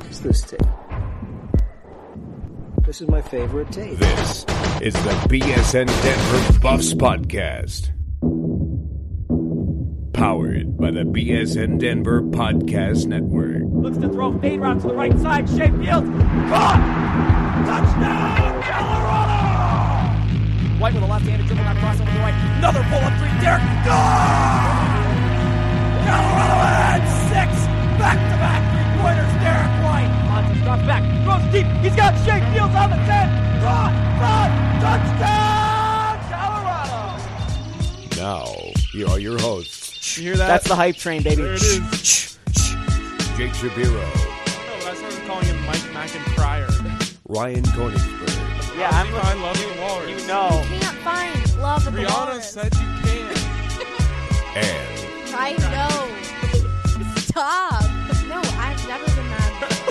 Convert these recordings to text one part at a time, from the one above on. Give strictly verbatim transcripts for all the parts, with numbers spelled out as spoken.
It's this tape. This is my favorite tape. This is the B S N Denver Buffs Podcast. Powered by the B S N Denver Podcast Network. Looks to throw fade route to the right side. Shea Fields. Caught! Touchdown, Colorado! White with a left-handed dribble out across over the right. Another pull-up three. Derek. Goal! Colorado had six back-to-back three-pointers. Derek White. Montes drops back. Throws deep. He's got Shea Fields on the ten. Caught! Caught! Touchdown, Colorado! Now, here are your hosts. You hear that? That's the hype train, baby. There it is. Jake Shapiro. Oh, I started calling him Mike McIntyre. Ryan Konigsberg. Yeah, I'm I love the Walrus. You know. You can't find love at the Rihanna Walrus. said you can. And I know. Stop. No, I've never been mad.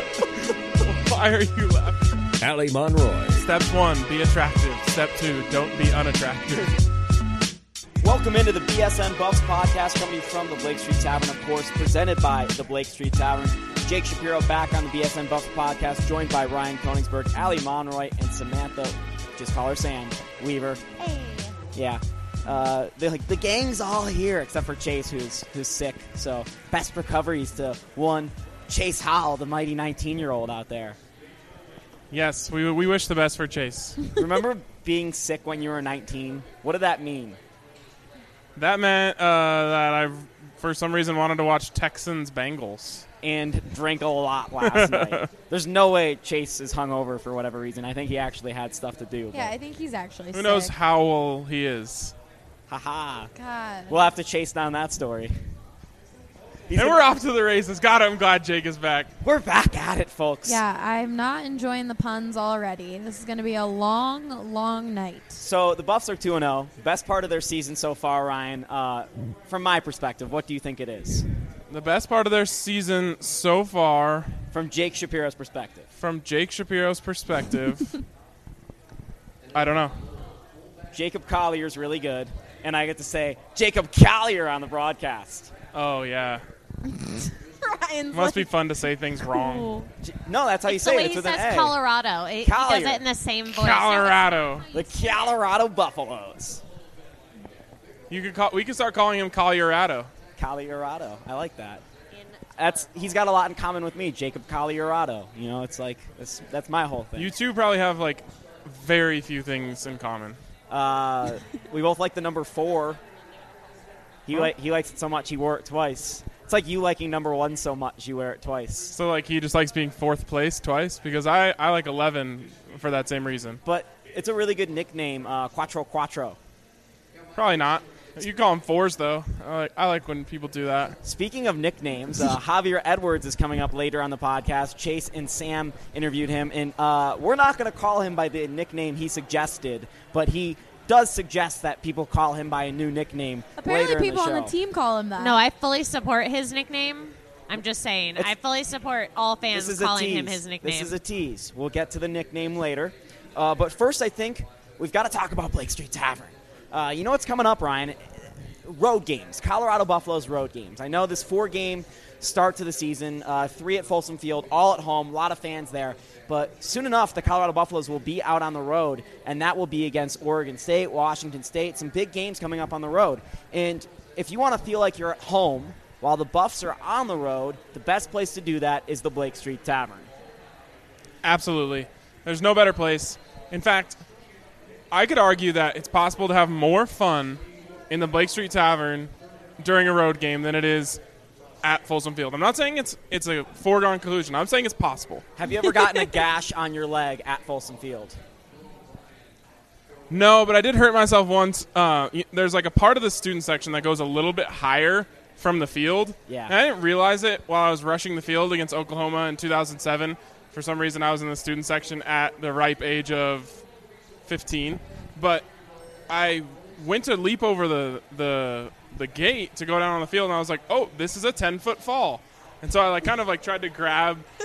Why are you laughing? Allie Monroy. Step one, be attractive. Step two, don't be unattractive. Welcome into the B S N Buffs podcast coming from the Blake Street Tavern, of course, presented by the Blake Street Tavern. Jake Shapiro back on the B S N Buffs podcast, joined by Ryan Konigsberg, Allie Monroy, and Samantha, just call her Sam, Weaver. Hey. Yeah. Uh, they're like, the gang's all here, except for Chase, who's who's sick. So, best recoveries to one Chase Howell, the mighty nineteen-year-old out there. Yes, we we wish the best for Chase. Remember being sick when you were nineteen? What did that mean? That meant uh, that I, for some reason, wanted to watch Texans Bengals. And drank a lot last night. There's no way Chase is hungover for whatever reason. I think he actually had stuff to do. Yeah, I think he's actually Who sick. knows how old he is? Haha. God. We'll have to chase down that story. He's And like, we're off to the races. God, I'm glad Jake is back. we're back at it, folks. Yeah, I'm not enjoying the puns already. This is going to be a long, long night. So the Buffs are two and oh. Best part of their season so far, Ryan. Uh, from my perspective, what do you think it is? The best part of their season so far, From Jake Shapiro's perspective. from Jake Shapiro's perspective, I don't know. Jacob Collier's really good. And I get to say Jacob Collier on the broadcast. Oh, yeah. Ryan's Must be like, fun to say things wrong. cool. J- No, that's how you It's the say way it. It's he with an says A. Colorado. It, he Collier. does it in the same voice. Colorado. The Colorado Buffaloes. You could call. We could start calling him Colorado. Collierato. I like that. That's he's got a lot in common with me, Jacob Collierato. You know, it's like that's, that's my whole thing. You two probably have like very few things in common. Uh, we both like the number four. He Huh? li- he likes it so much he wore it twice. It's like you liking number one so much you wear it twice. So like he just likes being fourth place twice because I, I like eleven for that same reason. But it's a really good nickname, uh, Quattro Quattro. Probably not. You call him fours though. I like, I like when people do that. Speaking of nicknames, uh, Javier Edwards is coming up later on the podcast. Chase and Sam interviewed him, and uh, we're not going to call him by the nickname he suggested, but he does suggest that people call him by a new nickname Apparently later people in the on show. the team call him that. No, I fully support his nickname. I'm just saying. It's- I fully support all This fans is a calling tease. him his nickname. This is a tease. We'll get to the nickname later. Uh, but first, I think we've got to talk about Blake Street Tavern. Uh, you know what's coming up, Ryan? Road games. Colorado Buffalo's road games. I know this four-game start to the season, uh, three at Folsom Field, all at home, a lot of fans there. But soon enough, the Colorado Buffaloes will be out on the road, and that will be against Oregon State, Washington State, some big games coming up on the road. And if you want to feel like you're at home while the Buffs are on the road, the best place to do that is the Blake Street Tavern. Absolutely. There's no better place. In fact, I could argue that it's possible to have more fun in the Blake Street Tavern during a road game than it is at Folsom Field. I'm not saying it's it's a foregone conclusion. I'm saying it's possible. Have you ever gotten a gash on your leg at Folsom Field? No, but I did hurt myself once. Uh, y- there's like a part of the student section that goes a little bit higher from the field. Yeah. And I didn't realize it while I was rushing the field against Oklahoma in two thousand seven. For some reason, I was in the student section at the ripe age of fifteen. But I went to leap over the, the the gate to go down on the field, and I was like, oh, this is a ten-foot fall. And so I like kind of like tried to grab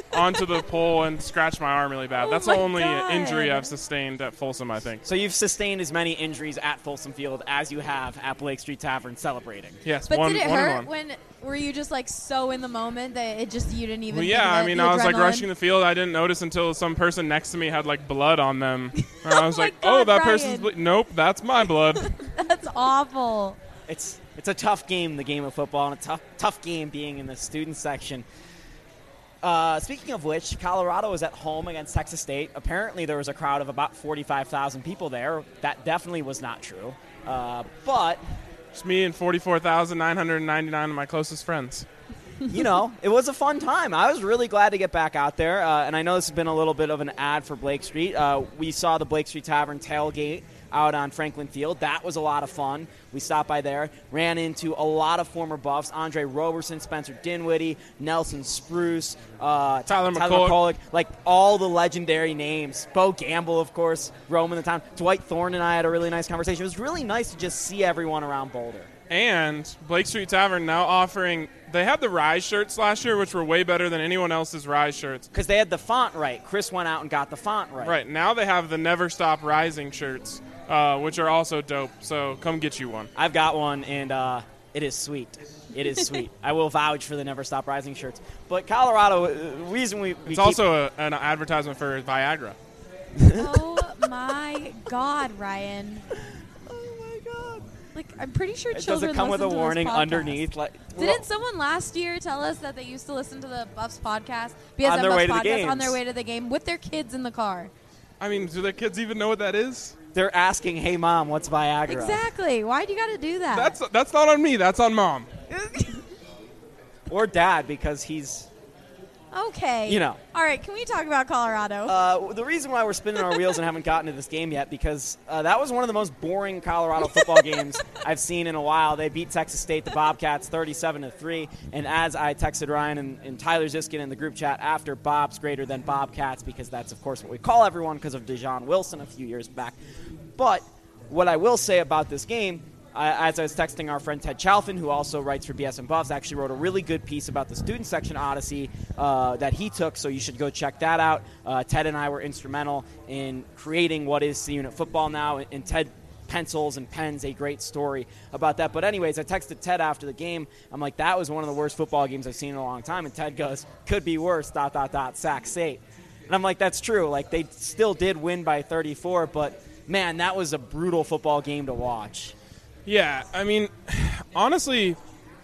onto the pole and scratched my arm really bad. Oh That's my the only God. injury I've sustained at Folsom, I think. So you've sustained as many injuries at Folsom Field as you have at Blake Street Tavern celebrating. Yes, But one, did it one and hurt one. when were you just like so in the moment that it just you didn't even? Well, think yeah, of I it, mean, the I was like adrenaline? rushing the field. I didn't notice until some person next to me had like blood on them. And I was my like, God, "Oh, that Ryan. person's ble- nope, that's my blood." That's awful. It's it's a tough game, the game of football, and a tough tough game being in the student section. Uh, speaking of which, Colorado was at home against Texas State. Apparently, there was a crowd of about forty-five thousand people there. That definitely was not true. Uh, but It's me and forty-four thousand nine hundred ninety-nine of my closest friends. you know, it was a fun time. I was really glad to get back out there. Uh, and I know this has been a little bit of an ad for Blake Street. Uh, we saw the Blake Street Tavern tailgate out on Franklin Field. That was a lot of fun. We stopped by there, ran into a lot of former Buffs: Andre Roberson, Spencer Dinwiddie, Nelson Spruce, uh, Tyler Tyler McCulloch. McCulloch, like all the legendary names. Bo Gamble, of course, roaming the town. Dwight Thorne and I had a really nice conversation. It was really nice to just see everyone around Boulder. And Blake Street Tavern now offering, they had the Rise shirts last year, which were way better than anyone else's Rise shirts. Because they had the font right. Chris went out and got the font right. Right, now they have the Never Stop Rising shirts, uh, which are also dope. So come get you one. I've got one, and uh, it is sweet. It is sweet. I will vouch for the Never Stop Rising shirts. But Colorado, uh, the reason we, we It's keep- also a, an advertisement for Viagra. Oh my God, Ryan. Oh my God! Like I'm pretty sure Does children it come with a listen to this warning podcast. underneath? Like, Didn't someone last year tell us that they used to listen to the Buffs podcast, B S N On their Buffs way to the podcast, on games. their way to the game with their kids in the car? I mean, do their kids even know what that is? they're asking, "Hey, mom, what's Viagra?" Exactly. Why do you got to do that? That's that's not on me. That's on mom. Or dad, because he's. okay. You know. All right. Can we talk about Colorado? Uh, the reason why we're spinning our wheels and haven't gotten to this game yet, because uh, that was one of the most boring Colorado football games I've seen in a while. They beat Texas State, the Bobcats, thirty-seven to three. And as I texted Ryan and, and Tyler Ziskin in the group chat after, Bob's greater than Bobcats, because that's, of course, what we call everyone because of DeJon Wilson a few years back. But what I will say about this game, Uh, as I was texting our friend Ted Chalfin, who also writes for B S N Buffs, actually wrote a really good piece about the student section Odyssey uh, that he took, so you should go check that out. Uh, Ted and I were instrumental in creating what is C-Unit football now, and Ted pencils and pens a great story about that. But anyways, I texted Ted after the game. I'm like, that was one of the worst football games I've seen in a long time. And Ted goes, could be worse, dot, dot, dot, Sac State. And I'm like, that's true. Like, they still did win by thirty-four, but, man, that was a brutal football game to watch. Yeah, I mean, honestly,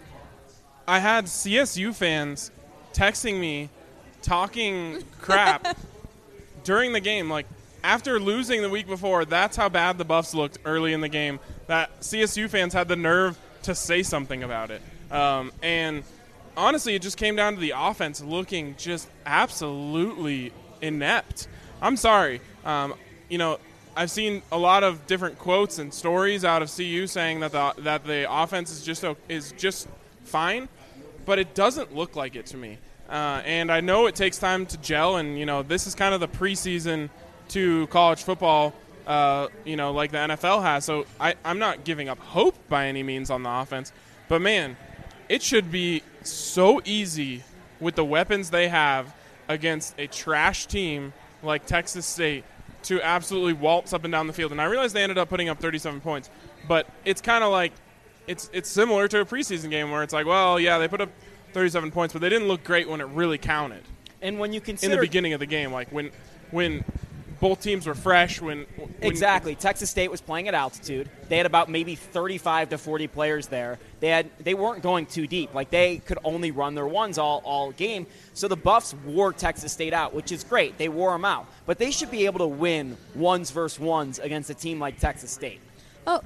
I had C S U fans texting me, talking crap during the game. Like, after losing the week before, that's how bad the Buffs looked early in the game, that C S U fans had the nerve to say something about it. Um, and honestly, it just came down to the offense looking just absolutely inept. I'm sorry. Um, you know, I've seen a lot of different quotes and stories out of C U saying that the that the offense is just is just fine, but it doesn't look like it to me. Uh, and I know it takes time to gel, and you know this is kind of the preseason to college football, uh, you know, like the N F L has. So I, I'm not giving up hope by any means on the offense, but man, it should be so easy with the weapons they have against a trash team like Texas State to absolutely waltz up and down the field. And I realize they ended up putting up thirty-seven points, but it's kind of like it's it's similar to a preseason game where it's like, well, yeah, they put up thirty-seven points, but they didn't look great when it really counted. And when you In consider the beginning of the game, like when when both teams were fresh, when, when exactly, Texas State was playing at altitude. They had about maybe thirty-five to forty players there. They had they weren't going too deep. Like they could only run their ones all all game. So the Buffs wore Texas State out, which is great. They wore them out, but they should be able to win ones versus ones against a team like Texas State. oh.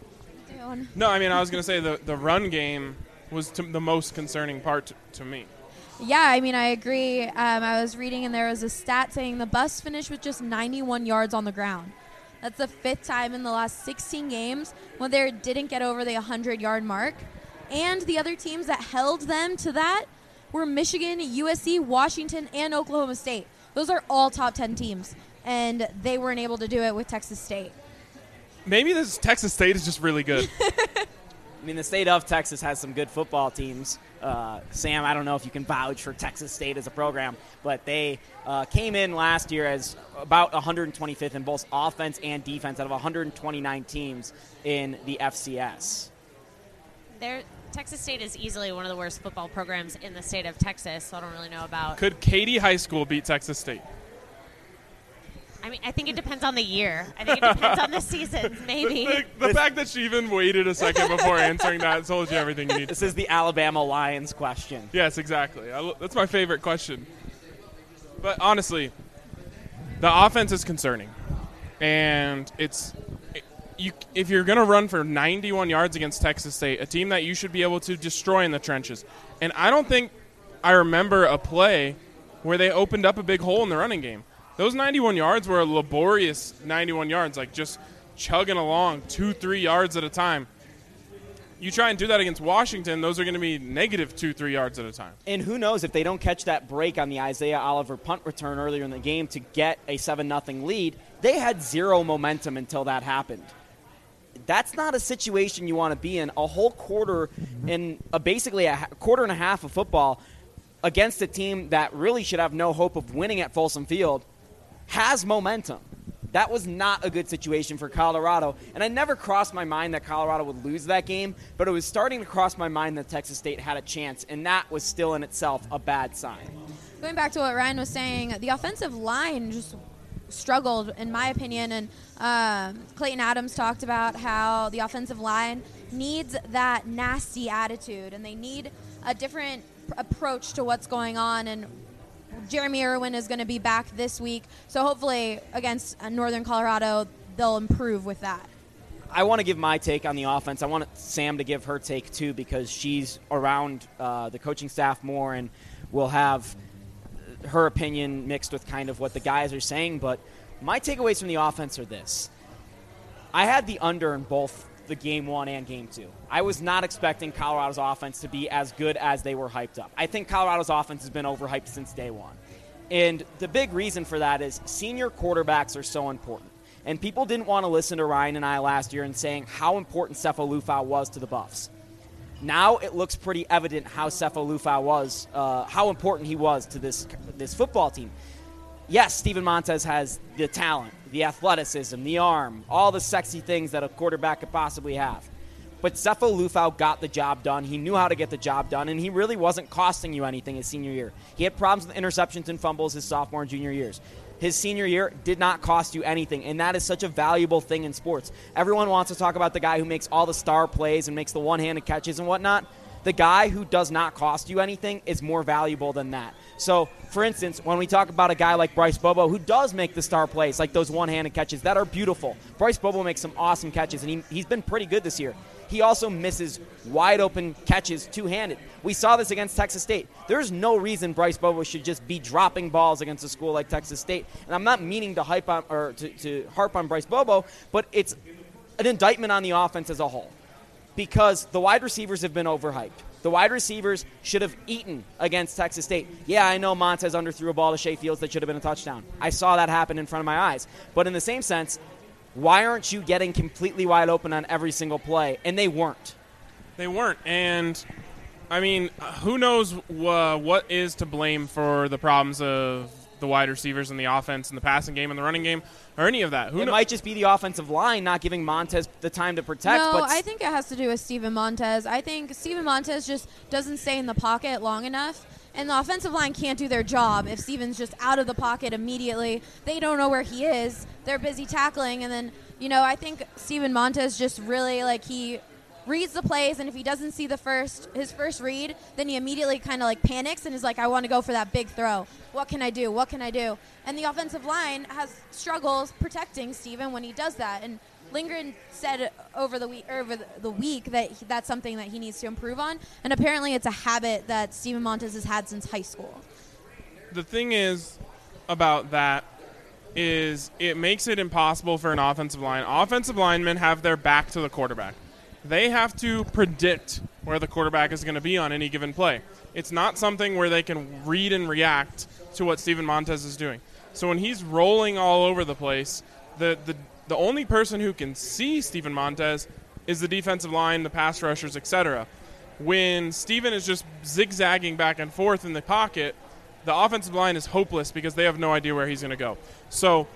Down. No, I mean I was going to say the the run game was to the most concerning part to, to me. Yeah, I mean, I agree. Um, I was reading, and there was a stat saying the Buffs finished with just ninety-one yards on the ground. That's the fifth time in the last sixteen games when they didn't get over the one hundred-yard mark. And the other teams that held them to that were Michigan, U S C, Washington, and Oklahoma State. Those are all top ten teams, and they weren't able to do it with Texas State. Maybe this Texas State is just really good. I mean, the state of Texas has some good football teams. Uh, Sam, I don't know if you can vouch for Texas State as a program, but they uh, came in last year as about one hundred twenty-fifth in both offense and defense out of one hundred twenty-nine teams in the F C S. They're, Texas State is easily one of the worst football programs in the state of Texas, so I don't really know about. Could Katy High School beat Texas State? I mean, I think it depends on the year. I think it depends on the seasons, maybe. The, the, the fact that she even waited a second before answering that told you everything you need. This is the Alabama Lions question. Yes, exactly. I, that's my favorite question. But honestly, the offense is concerning, and it's you. If you're going to run for ninety-one yards against Texas State, a team that you should be able to destroy in the trenches, and I don't think I remember a play where they opened up a big hole in the running game. Those ninety-one yards were a laborious ninety-one yards, like just chugging along two, three yards at a time. You try and do that against Washington, those are going to be negative two, three yards at a time. And who knows if they don't catch that break on the Isaiah Oliver punt return earlier in the game to get a seven nothing lead, they had zero momentum until that happened. That's not a situation you want to be in. A whole quarter and a, basically a quarter and a half of football against a team that really should have no hope of winning at Folsom Field has momentum. That was not a good situation for Colorado, and I never crossed my mind that Colorado would lose that game, but it was starting to cross my mind that Texas State had a chance, and that was still in itself a bad sign. Going back to what Ryan was saying, the offensive line just struggled, in my opinion, and um, Clayton Adams talked about how the offensive line needs that nasty attitude, and they need a different pr- approach to what's going on, and Jeremy Irwin is going to be back this week, so hopefully against uh, Northern Colorado, they'll improve with that. I want to give my take on the offense. I want Sam to give her take, too, because she's around uh, the coaching staff more and will have her opinion mixed with kind of what the guys are saying. But my takeaways from the offense are this. I had the under in both the game one and game two. I was not expecting Colorado's offense to be as good as they were hyped up. I think Colorado's offense has been overhyped since day one. And the big reason for that is senior quarterbacks are so important. And people didn't want to listen to Ryan and I last year and saying how important Sefo Lufau was to the Buffs. Now it looks pretty evident how Sefo Lufau was, uh, how important he was to this this football team. Yes, Steven Montez has the talent, the athleticism, the arm, all the sexy things that a quarterback could possibly have. But Sefo Lufau got the job done. He knew how to get the job done, and he really wasn't costing you anything his senior year. He had problems with interceptions and fumbles his sophomore and junior years. His senior year did not cost you anything, and that is such a valuable thing in sports. Everyone wants to talk about the guy who makes all the star plays and makes the one-handed catches and whatnot. The guy who does not cost you anything is more valuable than that. So, for instance, when we talk about a guy like Bryce Bobo who does make the star plays, like those one-handed catches that are beautiful, Bryce Bobo makes some awesome catches, and he, he's been pretty good this year. He also misses wide-open catches two-handed. We saw this against Texas State. There's no reason Bryce Bobo should just be dropping balls against a school like Texas State. And I'm not meaning to hype on or to, to harp on Bryce Bobo, but it's an indictment on the offense as a whole. Because the wide receivers have been overhyped. The wide receivers should have eaten against Texas State. Yeah, I know Montez underthrew a ball to Shea Fields that should have been a touchdown. I saw that happen in front of my eyes. But in the same sense, why aren't you getting completely wide open on every single play? And they weren't. They weren't. And, I mean, who knows uh, what is to blame for the problems of the wide receivers in the offense and the passing game and the running game or any of that. Who it kn- might just be the offensive line not giving Montez the time to protect. No, but I think it has to do with Steven Montez. I think Steven Montez just doesn't stay in the pocket long enough, and the offensive line can't do their job if Steven's just out of the pocket immediately. They don't know where he is. They're busy tackling, and then, you know, I think Steven Montez just really, like, he reads the plays, and if he doesn't see the first his first read, then he immediately kind of like panics and is like, I want to go for that big throw. What can I do? What can I do? And the offensive line has struggles protecting Steven when he does that. And Lindgren said over the week over the week that he, that's something that he needs to improve on, and apparently it's a habit that Steven Montez has had since high school. The thing is about that is it makes it impossible for an offensive line. Offensive linemen have their back to the quarterback. They have to predict where the quarterback is going to be on any given play. It's not something where they can read and react to what Steven Montez is doing. So when he's rolling all over the place, the the, the only person who can see Steven Montez is the defensive line, the pass rushers, et cetera. when Steven is just zigzagging back and forth in the pocket, the offensive line is hopeless because they have no idea where he's going to go. So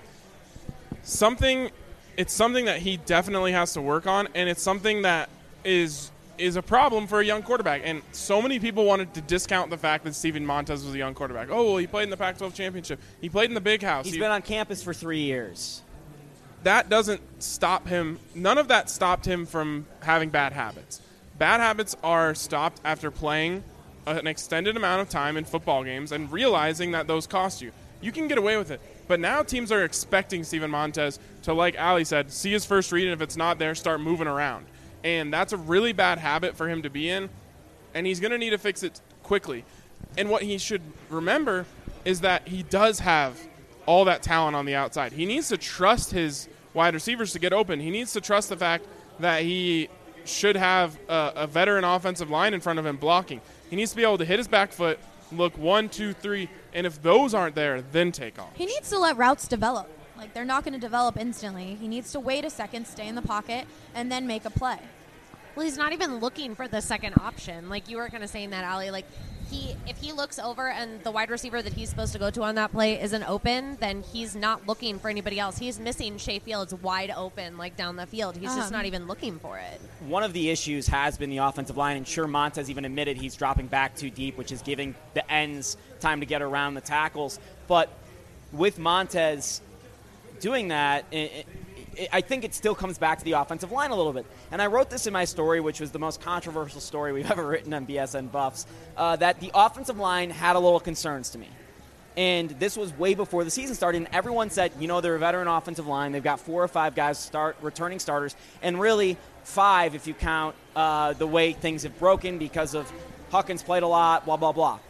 something, it's something that he definitely has to work on, and it's something that is is a problem for a young quarterback. And so many people wanted to discount the fact that Steven Montez was a young quarterback. Oh, well, he played in the Pac twelve championship. He played in the Big House. He's he, been on campus for three years. That doesn't stop him. None of that stopped him from having bad habits. Bad habits are stopped after playing an extended amount of time in football games and realizing that those cost you. You can get away with it. But now teams are expecting Steven Montez to, like Ali said, see his first read, and if it's not there, start moving around. And that's a really bad habit for him to be in, and he's going to need to fix it quickly. And what he should remember is that he does have all that talent on the outside. He needs to trust his wide receivers to get open. He needs to trust the fact that he should have a, a veteran offensive line in front of him blocking. He needs to be able to hit his back foot, look one, two, three, and if those aren't there, then take off. He needs to let routes develop. Like, they're not going to develop instantly. He needs to wait a second, stay in the pocket, and then make a play. Well, he's not even looking for the second option. Like you were kind of saying that, Ali. Like he, if he looks over and the wide receiver that he's supposed to go to on that play isn't open, then he's not looking for anybody else. He's missing Shea Fields wide open, like down the field. He's um. just not even looking for it. One of the issues has been the offensive line, and sure, Montez even admitted he's dropping back too deep, which is giving the ends time to get around the tackles. But with Montez doing that, it, it, I think it still comes back to the offensive line a little bit. And I wrote this in my story, which was the most controversial story we've ever written on B S N Buffs, uh, that the offensive line had a little concerns to me. And this was way before the season started, and everyone said, you know, they're a veteran offensive line. They've got four or five guys start returning starters, and really five if you count uh, the way things have broken because of Huckins played a lot, blah, blah, blah.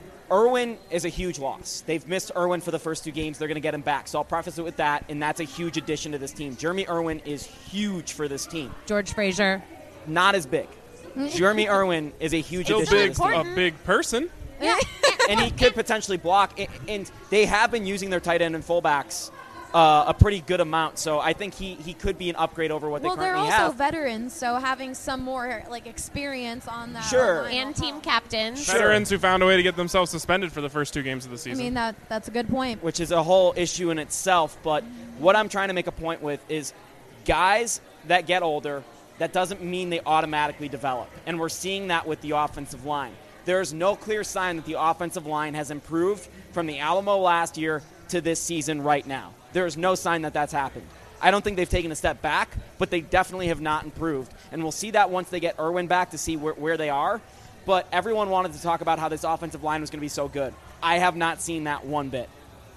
Irwin is a huge loss. They've missed Irwin for the first two games. They're going to get him back. So I'll preface it with that, and that's a huge addition to this team. Jeremy Irwin is huge for this team. George Frazier. Not as big. Jeremy Irwin is a huge Still addition big, to this team. a big person. Yeah. And he could potentially block. And they have been using their tight end and fullbacks uh, a pretty good amount. So I think he, he could be an upgrade over what well, they currently have. Well, they're also veterans, so having some more like experience on that. Sure. And team captain. Sure. Veterans who found a way to get themselves suspended for the first two games of the season. I mean, that that's a good point. Which is a whole issue in itself. But what I'm trying to make a point with is guys that get older, that doesn't mean they automatically develop. And we're seeing that with the offensive line. There's no clear sign that the offensive line has improved from the Alamo last year to this season right now. There's no sign that that's happened. I don't think they've taken a step back, but they definitely have not improved. And we'll see that once they get Irwin back to see where, where they are. But everyone wanted to talk about how this offensive line was going to be so good. I have not seen that one bit.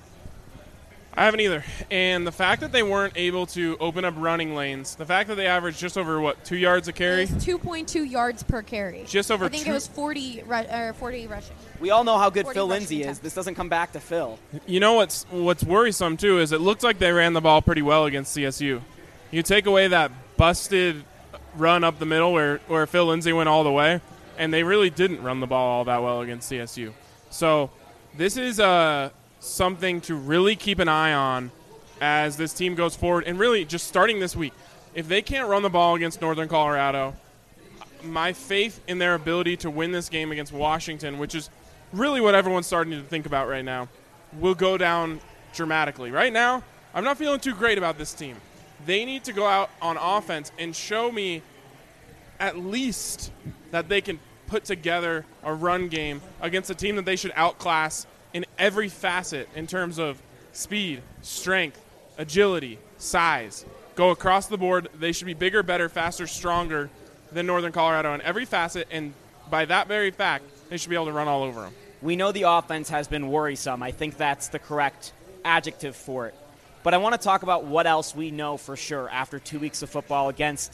I haven't either. And the fact that they weren't able to open up running lanes, the fact that they averaged just over, what, two yards a carry? It was two point two yards per carry. Just over I think two. it was forty, ru- or forty rushing. We all know how good forty Phil rushing Lindsay is. attempts. This doesn't come back to Phil. You know what's what's worrisome, too, is it looked like they ran the ball pretty well against C S U. You take away that busted run up the middle where, where Phil Lindsay went all the way, and they really didn't run the ball all that well against C S U. So this is uh, something to really keep an eye on as this team goes forward, and really just starting this week. If they can't run the ball against Northern Colorado, my faith in their ability to win this game against Washington, which is really what everyone's starting to think about right now, will go down dramatically. Right now, I'm not feeling too great about this team. They need to go out on offense and show me at least that they can put together a run game against a team that they should outclass in every facet in terms of speed, strength, agility, size. Go across the board. They should be bigger, better, faster, stronger than Northern Colorado in every facet, and by that very fact, they should be able to run all over them. We know the offense has been worrisome. I think that's the correct adjective for it. But I want to talk about what else we know for sure after two weeks of football against,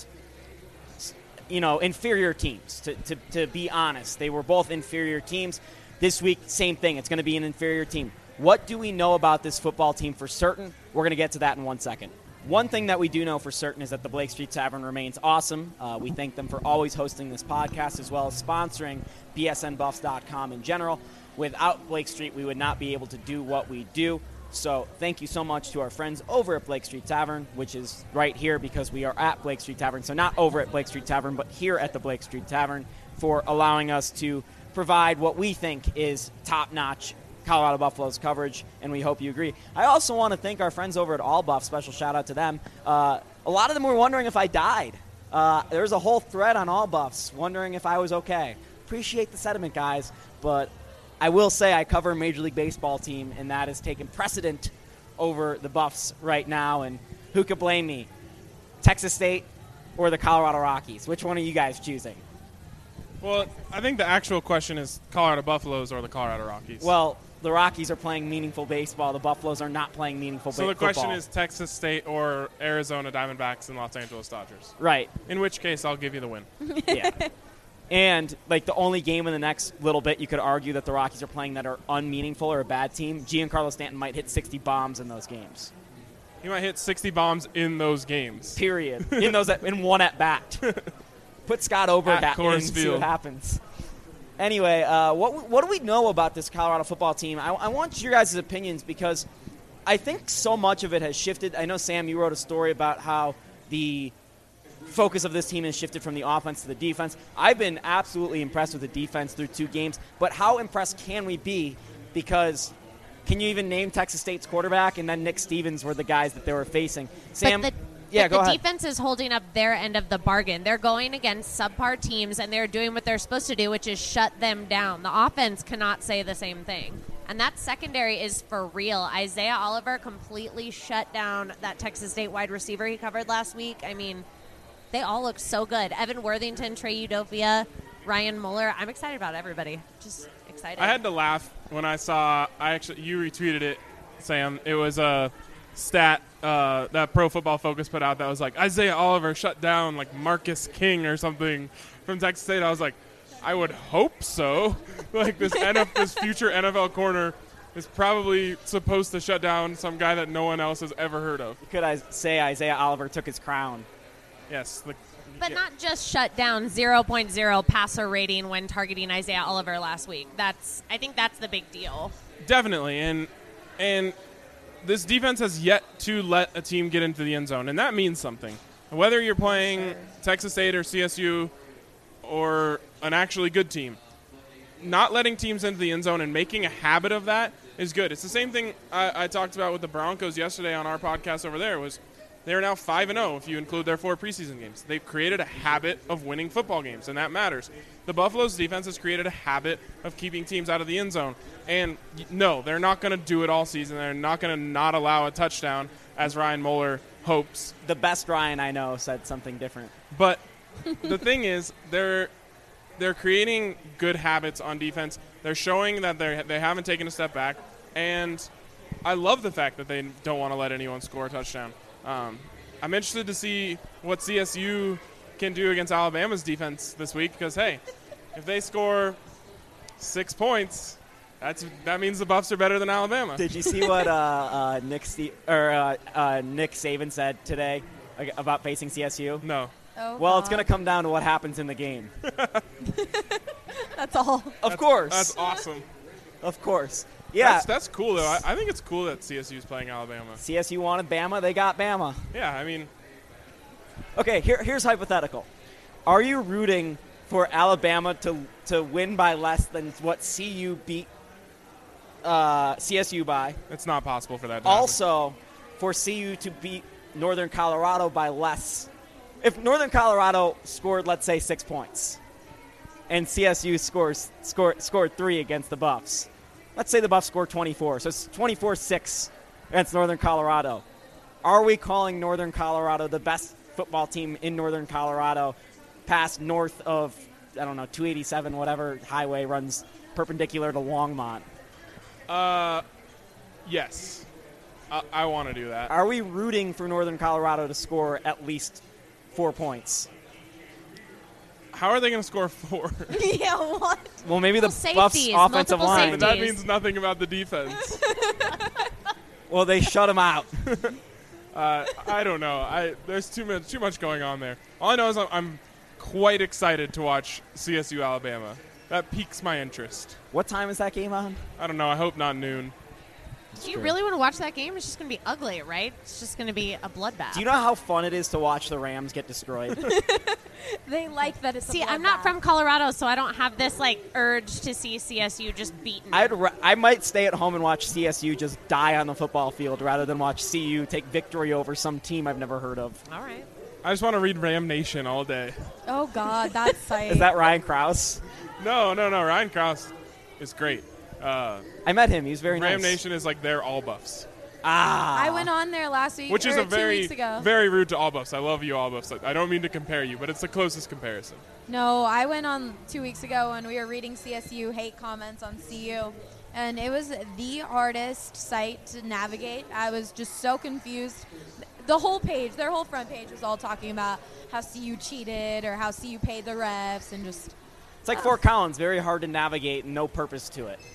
you know, inferior teams. To, to, to be honest, they were both inferior teams. This week, same thing. It's going to be an inferior team. What do we know about this football team for certain? We're going to get to that in one second. One thing that we do know for certain is that the Blake Street Tavern remains awesome. Uh, we thank them for always hosting this podcast as well as sponsoring B S N Buffs dot com in general. Without Blake Street, we would not be able to do what we do. So thank you so much to our friends over at Blake Street Tavern, which is right here because we are at Blake Street Tavern. So not over at Blake Street Tavern, but here at the Blake Street Tavern. for allowing us to provide what we think is top-notch Colorado Buffaloes coverage, and we hope you agree. I also want to thank our friends over at All Buff. Special shout-out to them. Uh, a lot of them were wondering if I died. Uh, there's a whole thread on All Buffs wondering if I was okay. Appreciate the sentiment, guys, but I will say I cover a Major League Baseball team, and that has taken precedent over the Buffs right now, and who could blame me? Texas State or the Colorado Rockies? Which one are you guys choosing? Well, I think the actual question is Colorado Buffaloes or the Colorado Rockies. Well, the Rockies are playing meaningful baseball. The Buffaloes are not playing meaningful so ba- the question football. is Texas State or Arizona Diamondbacks and Los Angeles Dodgers. Right. In which case, I'll give you the win. Yeah. And, like, the only game in the next little bit you could argue that the Rockies are playing that are unmeaningful or a bad team, Giancarlo Stanton might hit sixty bombs in those games. He might hit sixty bombs in those games. Period. in those in one at-bat. Put Scott Oberg At in and Coors see Field. what happens. Anyway, uh, what what do we know about this Colorado football team? I, I want your guys' opinions because I think so much of it has shifted. I know, Sam, you wrote a story about how the focus of this team has shifted from the offense to the defense. I've been absolutely impressed with the defense through two games, but how impressed can we be? Because can you even name Texas State's quarterback? And then Nick Stevens were the guys that they were facing. Sam, But the, yeah, but go the ahead. defense is holding up their end of the bargain. They're going against subpar teams, and they're doing what they're supposed to do, which is shut them down. The offense cannot say the same thing. And that secondary is for real. Isaiah Oliver completely shut down that Texas State wide receiver he covered last week. I mean, they all look so good. Evan Worthington, Trey Udofia, Ryan Mueller. I'm excited about everybody. Just excited. I had to laugh when I saw, I actually, you retweeted it, Sam. It was a stat uh, that Pro Football Focus put out that was like, Isaiah Oliver shut down like Marcus King or something from Texas State. I was like, I would hope so. Like this N F, this future N F L corner is probably supposed to shut down some guy that no one else has ever heard of. Could I say Isaiah Oliver took his crown? Yes. The, But yeah. not just shut down zero point zero passer rating when targeting Isaiah Oliver last week. That's I think that's the big deal. Definitely, and and this defense has yet to let a team get into the end zone, and that means something. Whether you're playing Sure. Texas State or C S U or an actually good team, not letting teams into the end zone and making a habit of that is good. It's the same thing I, I talked about with the Broncos yesterday on our podcast over there. Was they are now five and zero if you include their four preseason games. They've created a habit of winning football games, and that matters. The Buffalo's defense has created a habit of keeping teams out of the end zone. And y- no, they're not going to do it all season. They're not going to not allow a touchdown, as Ryan Mueller hopes. The best Ryan I know said something different. But the thing is, they're they're creating good habits on defense. They're showing that they they haven't taken a step back, and I love the fact that they don't want to let anyone score a touchdown. Um, I'm interested to see what C S U can do against Alabama's defense this week because, hey, if they score six points, that's that means the Buffs are better than Alabama. Did you see what uh, uh, Nick Ste- or uh, uh, Nick Saban said today like, about facing C S U? No. Oh, Well, it's God. going to come down to what happens in the game. That's all. Of course. That's awesome. Of course. Yeah. That's, that's cool, though. I, I think it's cool that C S U is playing Alabama. C S U wanted Bama. They got Bama. Yeah, I mean, Okay, here, here's hypothetical. Are you rooting for Alabama to to win by less than what C U beat uh, C S U by? it's not possible for that to happen. Also, for C U to beat Northern Colorado by less. If Northern Colorado scored, let's say, six points, and C S U scores scored, scored three against the Buffs, let's say the Buffs score twenty-four, so it's twenty-four six against Northern Colorado. Are we calling Northern Colorado the best football team in Northern Colorado past north of, I don't know, two eighty-seven, whatever highway runs perpendicular to Longmont? Uh, yes. I, I want to do that. Are we rooting for Northern Colorado to score at least four points? How are they going to score four? Yeah, what? Well, maybe the Multiple Buffs' safeties, offensive multiple line. But that safeties. means nothing about the defense. Well, they shut them out. uh, I don't know. I there's too much too much going on there. All I know is I'm, I'm quite excited to watch C S U Alabama. That piques my interest. What time is that game on? I don't know. I hope not noon. Do you really want to watch that game? It's just going to be ugly, right? It's just going to be a bloodbath. Do you know how fun it is to watch the Rams get destroyed? They like that it's See, i I'm not from Colorado, so I don't have this like urge to see C S U just beaten. I'd ra- I might stay at home and watch C S U just die on the football field rather than watch C U take victory over some team I've never heard of. All right. I just want to read Ram Nation all day. Oh, God, that's sight. Is that Ryan Krause? No, no, no. Ryan Krause is great. Uh, I met him. He was very Ram nice. Nation is like their all buffs, Ah. I went on there last week, which is or a two very, weeks ago. very rude to all buffs. I love you all buffs. I don't mean to compare you, but it's the closest comparison. No, I went on two weeks ago when we were reading C S U hate comments on C U, and it was the hardest site to navigate. I was just so confused. The whole page, their whole front page was all talking about how C U cheated or how C U paid the refs and just... It's like Fort Collins, very hard to navigate and no purpose to it.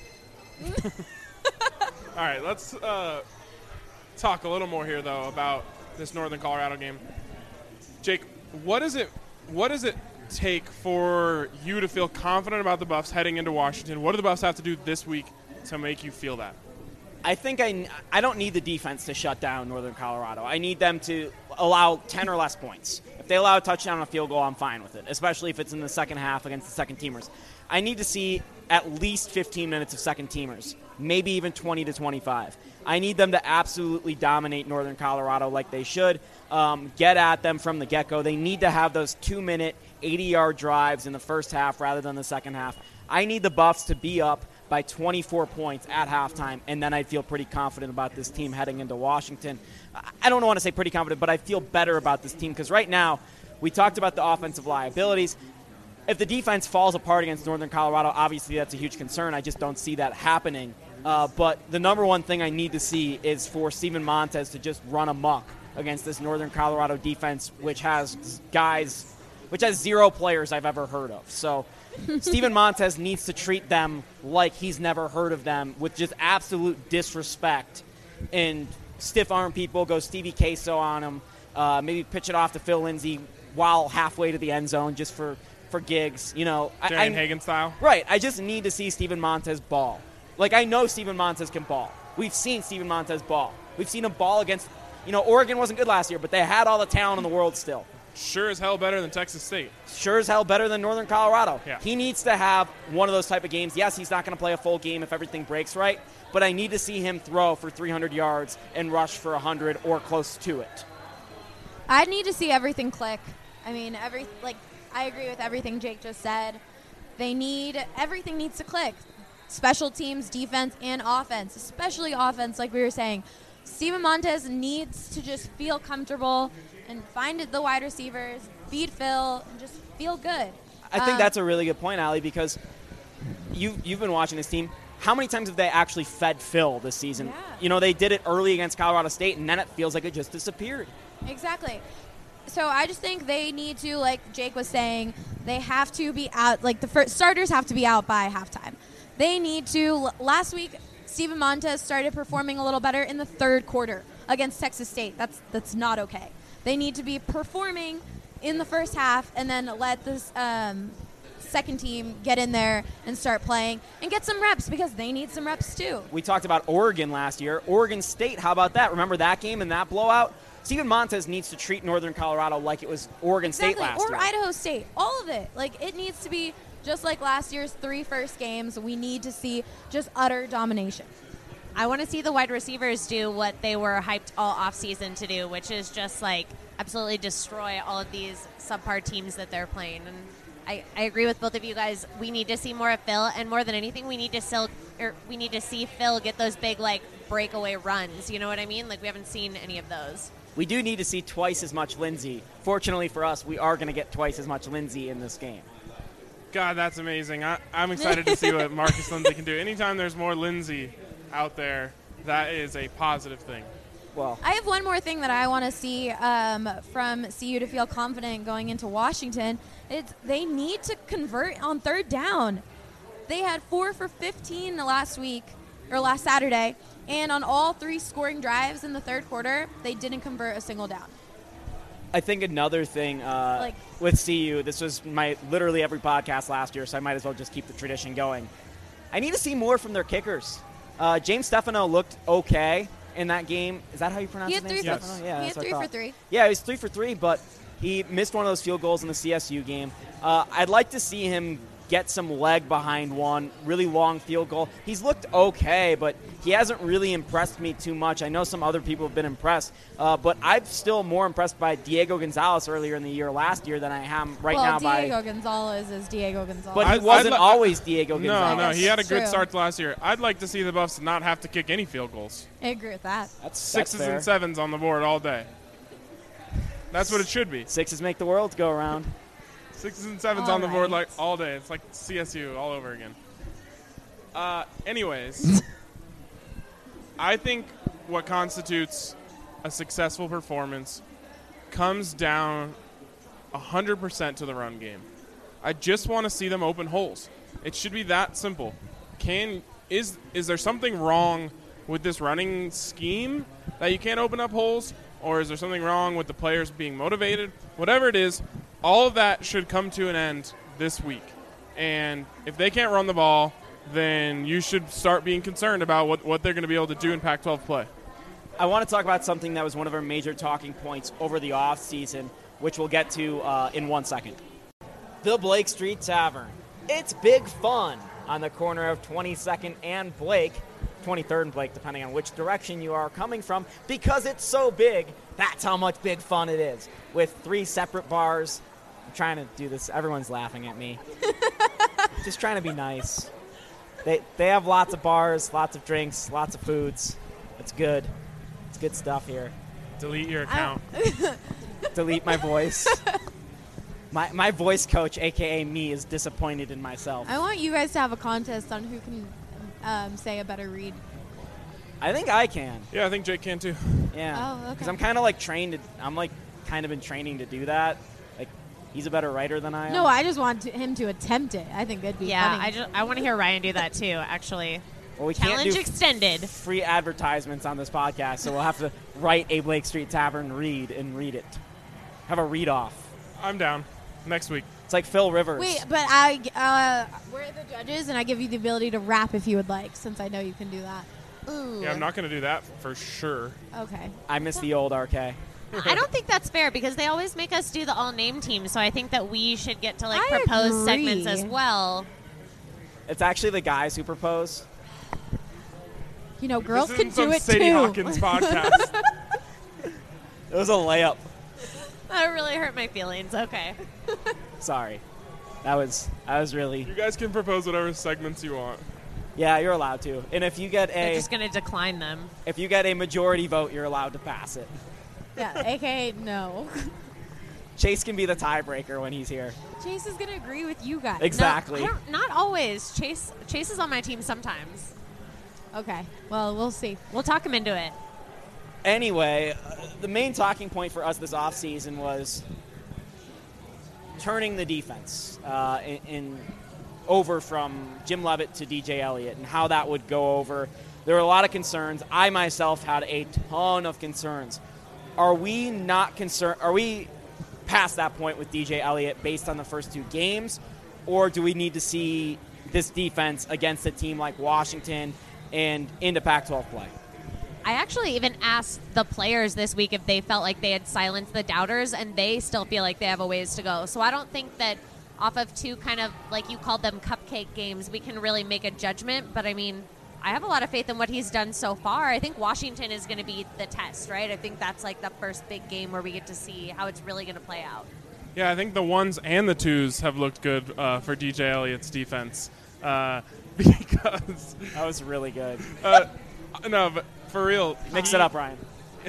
All right, let's uh, talk a little more here, though, about this Northern Colorado game. Jake, what is it? What does it take for you to feel confident about the Buffs heading into Washington? What do the Buffs have to do this week to make you feel that? I think I, I don't need the defense to shut down Northern Colorado. I need them to allow ten or less points. If they allow a touchdown and a field goal, I'm fine with it, especially if it's in the second half against the second teamers. I need to see at least fifteen minutes of second teamers, maybe even twenty to twenty-five. I need them to absolutely dominate Northern Colorado like they should, um, get at them from the get-go. They need to have those two-minute, eighty-yard drives in the first half rather than the second half. I need the Buffs to be up by twenty-four points at halftime, and then I'd feel pretty confident about this team heading into Washington. I don't want to say pretty confident, but I feel better about this team because right now we talked about the offensive liabilities. If the defense falls apart against Northern Colorado, obviously that's a huge concern. I just don't see that happening. Uh, but the number one thing I need to see is for Steven Montez to just run amok against this Northern Colorado defense, which has guys, which has zero players I've ever heard of. So Steven Montez needs to treat them like he's never heard of them with just absolute disrespect and stiff-arm people, go Stevie Queso on him, uh, maybe pitch it off to Phil Lindsay while halfway to the end zone just for, for gigs. You know, I, Darian I, Hagan style? Right. I just need to see Steven Montez ball. Like, I know Steven Montez can ball. We've seen Steven Montez ball. We've seen him ball against, you know, Oregon wasn't good last year, but they had all the talent in the world still. Sure as hell better than Texas State. Sure as hell better than Northern Colorado. Yeah. He needs to have one of those type of games. Yes, he's not going to play a full game if everything breaks right, but I need to see him throw for three hundred yards and rush for one hundred or close to it. I need to see everything click. I mean, every like I agree with everything Jake just said. They need everything needs to click. Special teams, defense, and offense, especially offense, like we were saying. Steven Montez needs to just feel comfortable and find the wide receivers, feed Phil, and just feel good. I think Um, that's a really good point, Allie, because you, you've been watching this team. How many times have they actually fed Phil this season? Yeah. You know, they did it early against Colorado State, and then it feels like it just disappeared. Exactly. So I just think they need to, like Jake was saying, they have to be out, like the first starters have to be out by halftime. They need to, last week, Steven Montez started performing a little better in the third quarter against Texas State. That's that's not okay. They need to be performing in the first half and then let this um, second team get in there and start playing and get some reps because they need some reps too. We talked about Oregon last year. Oregon State, how about that? Remember that game and that blowout? Steven Montez needs to treat Northern Colorado like it was Oregon Exactly. State last or year. Idaho State. All of it. Like, it needs to be just like last year's three first games. We need to see just utter domination. I want to see the wide receivers do what they were hyped all offseason to do, which is just like absolutely destroy all of these subpar teams that they're playing. And I, I agree with both of you guys. We need to see more of Phil, and more than anything, we need to still, or we need to see Phil get those big like breakaway runs. You know what I mean? Like, we haven't seen any of those. We do need to see twice as much Lindsey. Fortunately for us, we are going to get twice as much Lindsey in this game. God, that's amazing. I, I'm excited to see what Marcus Lindsey can do. Anytime there's more Lindsey out there, that is a positive thing. Well, I have one more thing that I want to see um, from C U to feel confident going into Washington. It's they need to convert on third down. They had four for fifteen last week, or last Saturday, and on all three scoring drives in the third quarter, they didn't convert a single down. I think another thing uh, Like- with C U, this was my literally every podcast last year, so I might as well just keep the tradition going. I need to see more from their kickers. Uh, James Stefano looked okay in that game. Is that how you pronounce He his had name? three Yes. for Stefano? Yeah, he that's had what I three for thought. three. Yeah, he was three for three, but he missed one of those field goals in the C S U game. Uh, I'd like to see him get some leg behind one really long field goal. He's looked okay, but he hasn't really impressed me too much. I know some other people have been impressed, uh, but I'm still more impressed by Diego Gonzalez earlier in the year last year than I am right well, now Diego by. Gonzalez is Diego Gonzalez. But he I'd- wasn't I'd li- always Diego No, Gonzalez. no, he had a That's good true. start last year. I'd like to see the Buffs not have to kick any field goals. I agree with that. That's Sixes that's fair. and sevens on the board all day. That's what it should be. Sixes make the world go around. Sixes and sevens All on the board right. like all day. It's like C S U all over again. Uh, anyways, I think what constitutes a successful performance comes down one hundred percent to the run game. I just want to see them open holes. It should be that simple. Can is is there something wrong with this running scheme that you can't open up holes, or is there something wrong with the players being motivated? Whatever it is, all of that should come to an end this week. And if they can't run the ball, then you should start being concerned about what, what they're going to be able to do in Pac twelve play. I want to talk about something that was one of our major talking points over the offseason, which we'll get to uh, in one second. The Blake Street Tavern. It's big fun on the corner of twenty-second and Blake, twenty-third and Blake, depending on which direction you are coming from, because it's so big. That's how much big fun it is. With three separate bars. I'm trying to do this. Everyone's laughing at me. Just trying to be nice. They they have lots of bars, lots of drinks, lots of foods. It's good. It's good stuff here. Delete your account. Delete my voice. My my voice coach, a k a me, is disappointed in myself. I want you guys to have a contest on who can um, say a better read. I think I can. Yeah, I think Jake can too. Yeah. Oh, okay. Because I'm kind of like trained to, I'm like kind of in training to do that. Like, he's a better writer than I am. No, I just want to, him to attempt it. I think that'd be Yeah, funny. I just I want to hear Ryan do that too. Actually, well, we can't challenge do extended. free advertisements on this podcast, so we'll have to write a Blake Street Tavern read and read it. Have a read off. I'm down. Next week. It's like Phil Rivers. Wait, but I uh, we're the judges, and I give you the ability to rap if you would like, since I know you can do that. Ooh. Yeah, I'm not going to do that for sure. Okay. I miss the old R K. I don't think that's fair because they always make us do the all name team. So I think that we should get to like I propose agree. segments as well. It's actually the guys who propose. You know, girls this can isn't some do it Sadie too. Hawkins podcast. It was a layup. That really hurt my feelings. Okay. Sorry. That was that was really You guys can propose whatever segments you want. yeah. You're allowed to, and if you get They're a just going to decline them. if you get a majority vote, you're allowed to pass it. Yeah, A K A no. Chase can be the tiebreaker when he's here. Chase is gonna agree with you guys. Exactly. No, I don't, not always. Chase Chase is on my team sometimes. Okay. Well, we'll see. We'll talk him into it. Anyway, uh, the main talking point for us this offseason was turning the defense uh, in, in over from Jim Leavitt to D J Elliott and how that would go over. There were a lot of concerns. I myself had a ton of concerns. Are we not concerned? Are we past that point with D J Elliott based on the first two games, or do we need to see this defense against a team like Washington and into Pac twelve play? I actually even asked the players this week if they felt like they had silenced the doubters, and they still feel like they have a ways to go. So I don't think that off of two kind of, like you called them, cupcake games, we can really make a judgment. But, I mean, I have a lot of faith in what he's done so far. I think Washington is going to be the test, right? I think that's like the first big game where we get to see how it's really going to play out. Yeah, I think the ones and the twos have looked good uh, for D J Elliott's defense uh, because That was really good. uh, no, but for real, Mix he- it up, Ryan.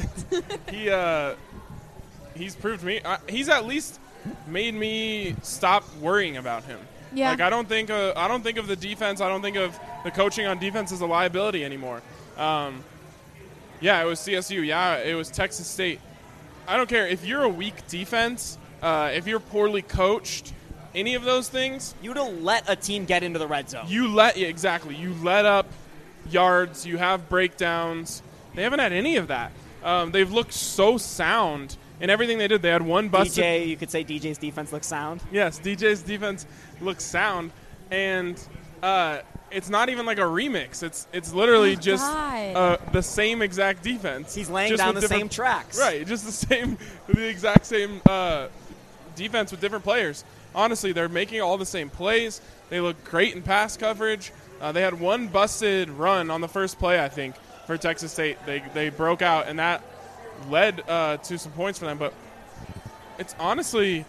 He uh, he's proved me. Uh, he's at least made me stop worrying about him. Yeah. Like I don't think uh, I don't think of the defense. I don't think of the coaching on defense as a liability anymore. Um, yeah, it was C S U. Yeah, it was Texas State. I don't care if you're a weak defense. Uh, if you're poorly coached, any of those things, You to let a team get into the red zone. you let yeah, exactly. You let up yards. You have breakdowns. They haven't had any of that. Um, they've looked so sound in everything they did. They had one busted. D J, you could say D J's defense looks sound. Yes, D J's defense looks sound, and uh, it's not even like a remix. It's it's literally Oh, just God. uh, the same exact defense. He's laying just down with the different- same tracks. Right, just the same, the exact same uh, defense with different players. Honestly, they're making all the same plays. They look great in pass coverage. Uh, they had one busted run on the first play, I think, for Texas State. They they broke out, and that led uh, to some points for them. But it's honestly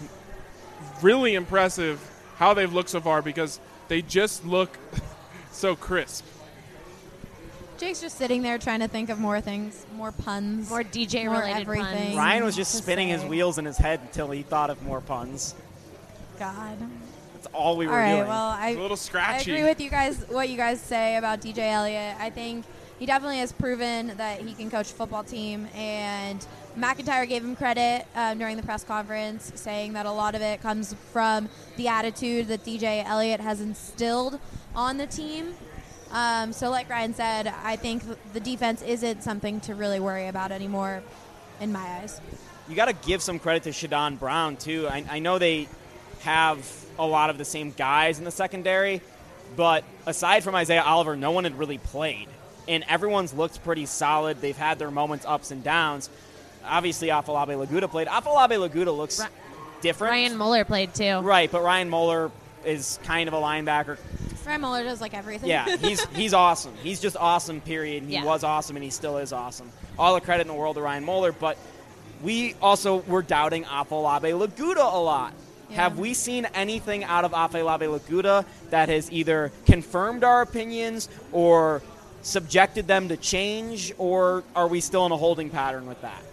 really impressive how they've looked so far because they just look so crisp. Jake's just sitting there trying to think of more things, more puns, More D J more related everything. puns. Ryan was just to spinning his say. wheels in his head until he thought of more puns. God. That's all we were All right. doing. Well, I It's a little I scratchy. agree with you guys. What you guys say about D J Elliott, I think he definitely has proven that he can coach a football team. And McIntyre gave him credit um, during the press conference, saying that a lot of it comes from the attitude that D J Elliott has instilled on the team. Um, so, like Ryan said, I think the defense isn't something to really worry about anymore, in my eyes. You got to give some credit to Shadon Brown, too. I, I know they have a lot of the same guys in the secondary, but aside from Isaiah Oliver, no one had really played. And everyone's looked pretty solid. They've had their moments, ups and downs. Obviously, Afolabi Laguda played. Afolabi Laguda looks Ra- different. Ryan Muller played too. Right, but Ryan Moeller is kind of a linebacker. Ryan Muller does like everything. Yeah, he's he's awesome. He's just awesome, period. He Yeah. was awesome, and he still is awesome. All the credit in the world to Ryan Moeller, but we also were doubting Afolabi Laguda a lot. Yeah. Have we seen anything out of Afolabi Laguda that has either confirmed our opinions or subjected them to change, or are we still in a holding pattern with that?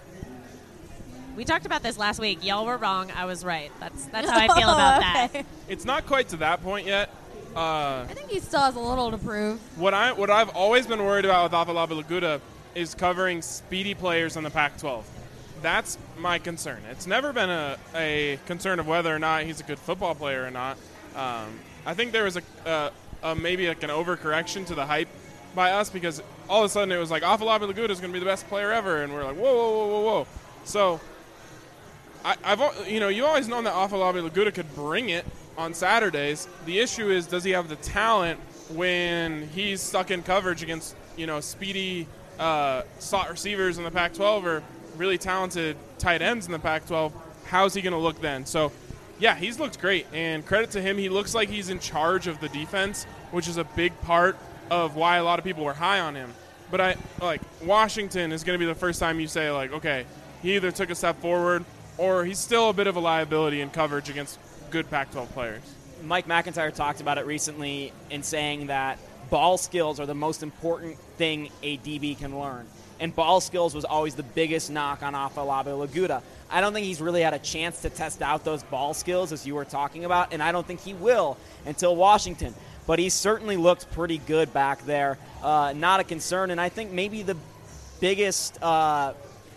We talked about this last week. Y'all were wrong. I was right. That's that's how I feel about that. Okay. It's not quite to that point yet. Uh, I think he still has a little to prove. what I what I've always been worried about with Afolabi Laguda is covering speedy players on the Pac twelve. That's my concern. It's never been a, a concern of whether or not he's a good football player or not. Um, I think there was a, a, a maybe like an overcorrection to the hype by us because all of a sudden it was like Afolabi Laguda is going to be the best player ever, and we're like whoa whoa whoa whoa whoa. So I, I've al- you know you've always known that Afolabi Laguda could bring it on Saturdays. The issue is, does he have the talent when he's stuck in coverage against, you know, speedy uh, slot receivers in the Pac twelve or really talented tight ends in the Pac twelve? How's he going to look then? So, yeah, he's looked great, and credit to him. He looks like he's in charge of the defense, which is a big part of why a lot of people were high on him. But I like Washington is going to be the first time you say, like, okay, he either took a step forward or he's still a bit of a liability in coverage against good Pac twelve players. Mike McIntyre talked about it recently in saying that ball skills are the most important thing a D B can learn. And ball skills was always the biggest knock on Afolabi Laguda. I don't think he's really had a chance to test out those ball skills, as you were talking about, and I don't think he will until Washington. But he certainly looked pretty good back there. Uh, not a concern, and I think maybe the biggest uh,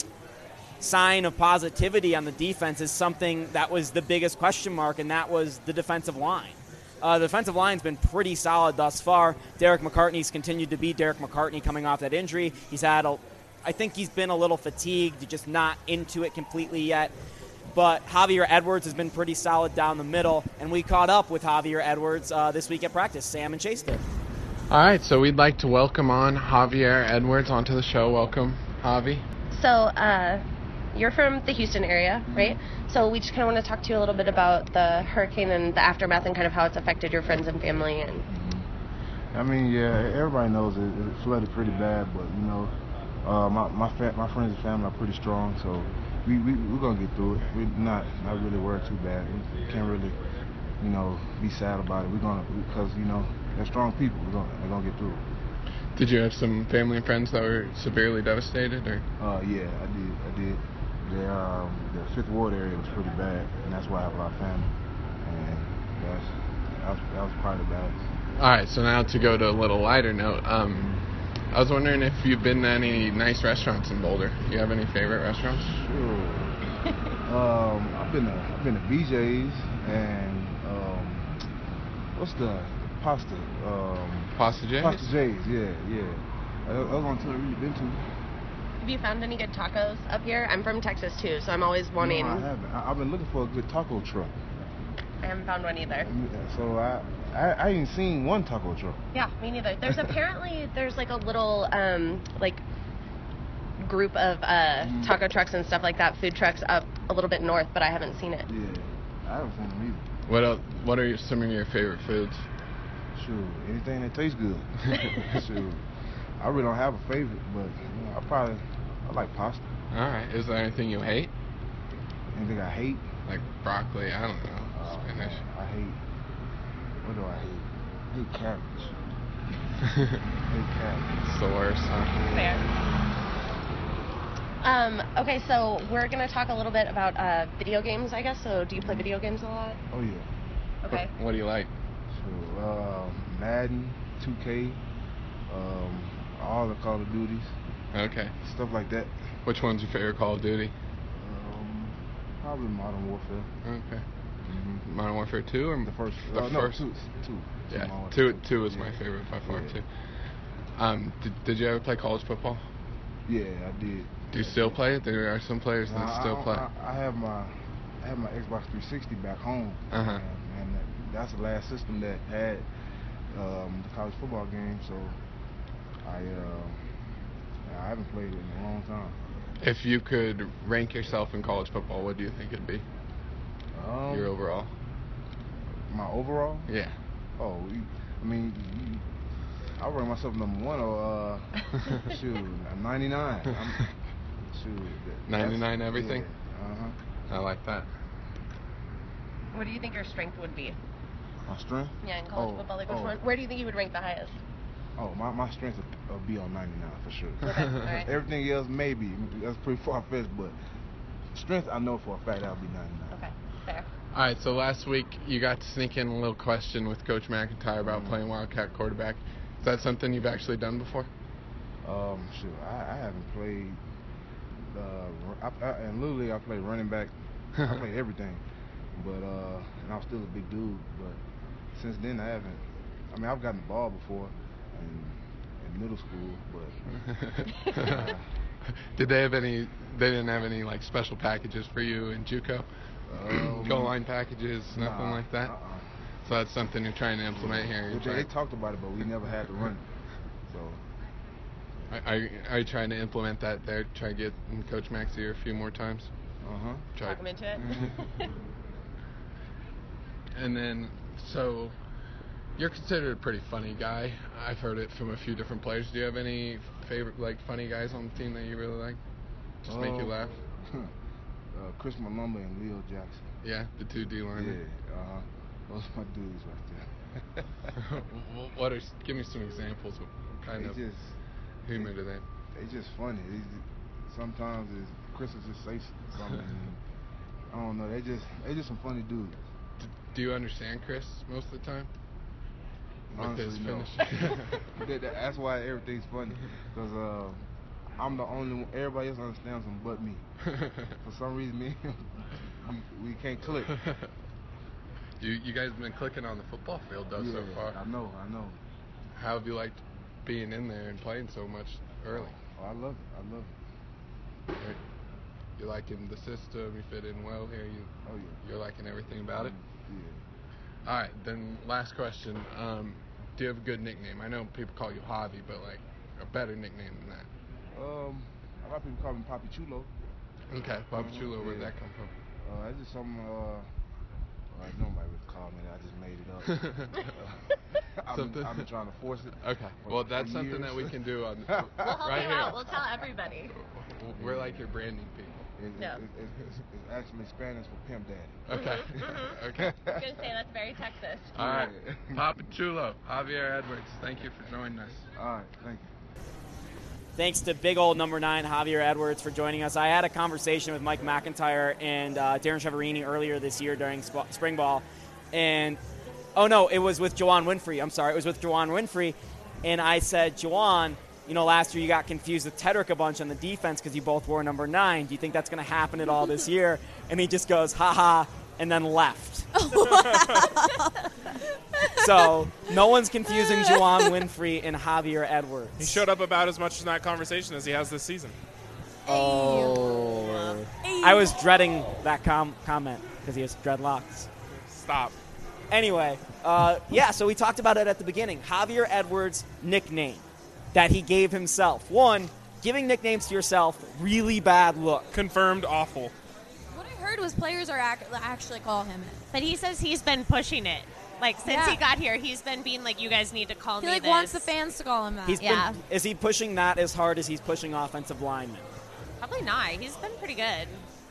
sign of positivity on the defense is something that was the biggest question mark, and that was the defensive line. Uh, the defensive line's been pretty solid thus far. Derek McCartney's continued to be Derek McCartney coming off that injury. He's had, a, I think he's been a little fatigued, just not into it completely yet. But Javier Edwards has been pretty solid down the middle, and we caught up with Javier Edwards uh, this week at practice. Sam and Chase did. All right, so we'd like to welcome on Javier Edwards onto the show. Welcome, Javi. So, uh, you're from the Houston area, right? So we just kind of want to talk to you a little bit about the hurricane and the aftermath and kind of how it's affected your friends and family. And I mean, yeah, everybody knows it, it flooded pretty bad, but you know, uh, my my fa- my friends and family are pretty strong, so we we we're gonna get through it. We're not not really worried too bad. We can't really, you know, be sad about it. We're gonna because you know they're strong people. We're gonna they're gonna get through it. Did you have some family and friends that were severely devastated, or? Uh, yeah, I did. I did. The, um, the Fifth Ward area was pretty bad, and that's why I have a lot of family. And that's, that was, that was probably the baddest. All right, so now to go to a little lighter note. Um, I was wondering if you've been to any nice restaurants in Boulder. Do you have any favorite restaurants? Sure. um, I've been to I've been to B J's and um, what's the pasta? Um, Pasta J's? Pasta J's, yeah, yeah. That was the only two I've really been to. have you found any good tacos up here? I'm from Texas too, so I'm always wanting. No, I haven't. I, I've been looking for a good taco truck. I haven't found one either. So I, I, I ain't seen one taco truck. Yeah, me neither. There's apparently there's like a little um like group of uh taco trucks and stuff like that, food trucks up a little bit north, but I haven't seen it. Yeah, I haven't seen them either. What else, What are your, some of your favorite foods? Sure, anything that tastes good. Sure. I really don't have a favorite, but you know, I probably I like pasta. All right. Is there anything you hate? Anything I hate? Like broccoli? I don't know. Uh, Spinach. I hate. What do I hate? I hate cabbage. I hate cabbage. It's the worst, huh? Fair. Um, okay, so we're gonna talk a little bit about uh, video games, I guess. So, do you play video games a lot? Oh yeah. Okay. What, what do you like? So, uh, Madden, two K, um, all the Call of Duties, Okay. stuff like that. Which one's your favorite Call of Duty? Um, probably Modern Warfare. Okay. Mm-hmm. Modern Warfare two or The first. The uh, no, first. two. Two. Yeah. Modern Two. Warfare Two is yeah. my favorite by far Yeah. too. Um, did, did you ever play college football? Yeah, I did. Do you still play it? There are some players that Nah, still I, play. I, I have my I have my Xbox three sixty back home, Uh-huh. and, and that, that's the last system that had um, the college football game. So I uh, I haven't played it in a long time. If you could rank yourself in college football, what do you think it'd be? Um, Your overall? My overall? Yeah. Oh, you, I mean, you, I rank myself number one or uh, shoot, I'm ninety-nine. I'm, shoot, that- ninety-nine that's- everything? Yeah, uh-huh. I like that. What do you think your strength would be? My strength? Yeah, in college Oh, football, like which oh. one? Where do you think you would rank the highest? Oh, my, my strength will, will be on ninety-nine for sure. Okay, all right. Everything else maybe that's pretty far fetched, but strength I know for a fact that'll be ninety-nine. Okay, fair. All right, so last week you got to sneak in a little question with Coach McIntyre about Mhm. playing Wildcat quarterback. Is that something you've actually done before? Um, sure. I, I haven't played. Uh, I, I, and literally I play running back. I play everything, but uh, and I'm still a big dude. But since then I haven't. I mean I've gotten the ball before in, in middle school, but. Uh, Did they have any? They didn't have any like special packages for you in JUCO? Um, Goal line packages, nothing nah, like that. Uh-uh. So that's something you're trying to implement here. You're Well, they, trying- they talked about it, but we never had to run. So. Are, are, are you trying to implement that there? Try to get in Coach Mac's ear a few more times? Uh huh. Try. Talk him into it. And then, so, you're considered a pretty funny guy. I've heard it from a few different players. Do you have any favorite, like, funny guys on the team that you really like? Just make you Um, laugh? uh, Chris Malumba and Leo Jackson. Yeah, the two D Yeah. linemen. Uh huh. Those are my dudes right there. What are? Give me some examples. What kind they of just humor do they? they just funny. They just, sometimes it's, Chris will just say something. And, I don't know. They just they just some funny dudes. D- do you understand Chris most of the time? With Honestly, his no. finish? that, that, that's why everything's funny. Cause uh, I'm the only one. Everybody else understands him but me. For some reason, me and him, we we can't click. you you guys have been clicking on the football field though yeah, so far. I know. I know. How have you liked being in there and playing so much early? Oh, I love it. I love it. Right? You liking the system? You fit in well here. You Oh yeah. you're liking everything about it. Yeah. All right, then last question. Um, do you have a good nickname? I know people call you Javi, but like a better nickname than that. Um, a lot of people call me Papi Chulo. Okay, Papa Mhm, Chulo, where'd yeah. that come from? Uh, it's just something. Uh, well, nobody would call me that. I just made it up. uh, I've, Something- been, I've been trying to force it. Okay, for- well for that's something years. that we can do on We'll help right you here. out. We'll tell everybody. We're like your branding people. It, Yeah. it, it, it's, it's actually Spanish for pimp daddy. Okay, Mhm. okay. I was gonna say that's very Texas. All right, Yeah. Papa Chulo, Javier Edwards. Thank you for joining us. All right, thank you. Thanks to big old number nine, Javier Edwards, for joining us. I had a conversation with Mike McIntyre and uh, Darren Chiaverini earlier this year during sp- spring ball. And, oh no, it was with Juwan Winfrey. I'm sorry, it was with Juwan Winfrey. And I said, Juwan, you know, last year you got confused with Tedrick a bunch on the defense because you both wore number nine. Do you think that's going to happen at all this year? And he just goes, ha ha, and then left. So, no one's confusing Juwan Winfrey and Javier Edwards. He showed up about as much in that conversation as he has this season. Oh. I was dreading that com- comment because he has dreadlocks. Stop. Anyway, uh, yeah, so we talked about it at the beginning. Javier Edwards' nickname that he gave himself. One, giving nicknames to yourself, really bad look. Confirmed awful. What I heard was players are ac- actually call him it. But he says he's been pushing it. Like, since Yeah. he got here, he's been being like, you guys need to call He me like this. wants the fans to call him that. He's Yeah. been, is he pushing that as hard as he's pushing offensive linemen? Probably not. He's been pretty good.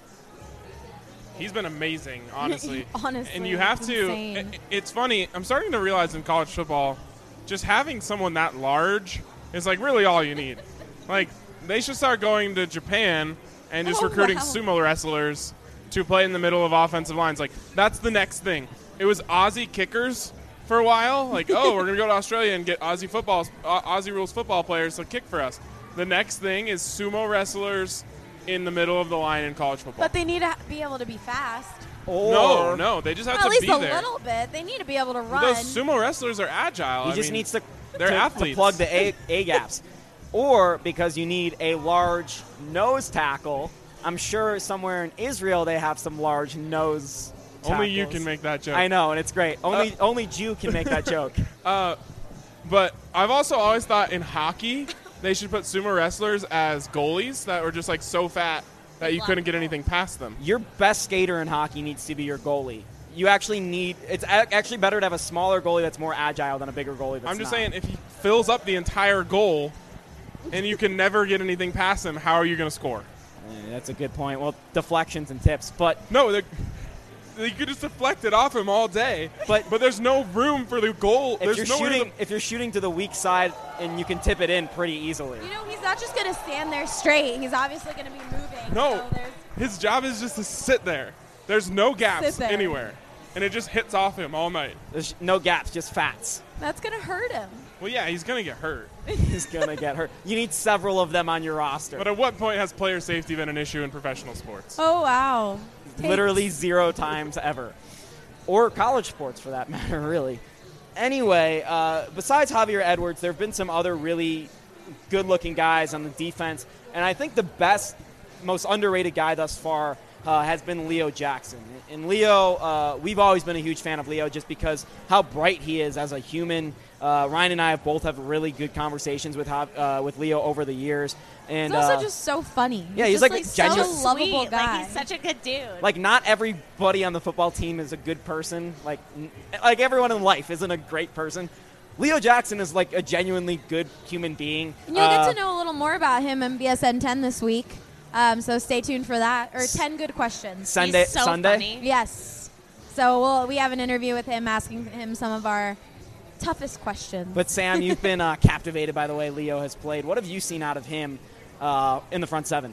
He's been amazing, honestly. Honestly, and you have it's to. insane. it- it's funny. I'm starting to realize in college football, just having someone that large is like really all you need. Like they should start going to Japan and just Oh, recruiting wow. sumo wrestlers to play in the middle of offensive lines. Like that's the next thing. It was Aussie kickers for a while. Like, oh, we're gonna go to Australia and get Aussie football, uh, Aussie rules football players to kick for us. The next thing is sumo wrestlers in the middle of the line in college football. But they need to be able to be fast. Or No, no, they just have Well, at to least be a there. little bit. They need to be able to run. Those sumo wrestlers are agile. He I just mean, needs to, they're to, to athletes. plug the A, A gaps. Or because you need a large nose tackle. I'm sure somewhere in Israel they have some large nose tackles. Only you can make that joke. I know, and it's great. Only Uh, only Jew can make that joke. Uh, but I've also always thought in hockey they should put sumo wrestlers as goalies that were just like so fat that you couldn't get anything past them. Your best skater in hockey needs to be your goalie. You actually need. It's a- actually better to have a smaller goalie that's more agile than a bigger goalie that's I'm just not. saying if he fills up the entire goal and you can never get anything past him, how are you going to score? Eh, that's a good point. Well, deflections and tips, but No, they you could just deflect it off him all day. But- but there's no room for the goal. if There's you're nowhere shooting, to, if you're shooting to the weak side and you can tip it in pretty easily. You know, he's not just going to stand there straight. He's obviously going to be moving. No, So there's, his job is just to sit there. There's no gaps Sit there. anywhere, and it just hits off him all night. There's no gaps, just fats. that's going to hurt him. Well, yeah, he's gonna get hurt. He's gonna get hurt. You need several of them on your roster. But at what point has player safety been an issue in professional sports? Oh, wow. Literally zero times ever. Or college sports, for that matter, really. Anyway, uh, besides Javier Edwards, there have been some other really good-looking guys on the defense, and I think the best, most underrated guy thus far uh, has been Leo Jackson. And Leo, uh, we've always been a huge fan of Leo just because how bright he is as a human. Uh, Ryan and I have both have really good conversations with Jav- uh, with Leo over the years. And He's also uh, just so funny. yeah, he's just like a such genuine- a lovable Sweet. guy. Like, he's such a good dude. like not everybody on the football team is a good person. Like n- like everyone in life isn't a great person. Leo Jackson is like a genuinely good human being. And you'll Uh, get to know a little more about him in B S N ten this week. Um, so stay tuned for that. Or ten good questions. Sunday. he's so Sunday. funny. Yes. So we'll, we have an interview with him asking him some of our toughest questions. But Sam, you've been uh, captivated by the way Leo has played. What have you seen out of him uh, in the front seven?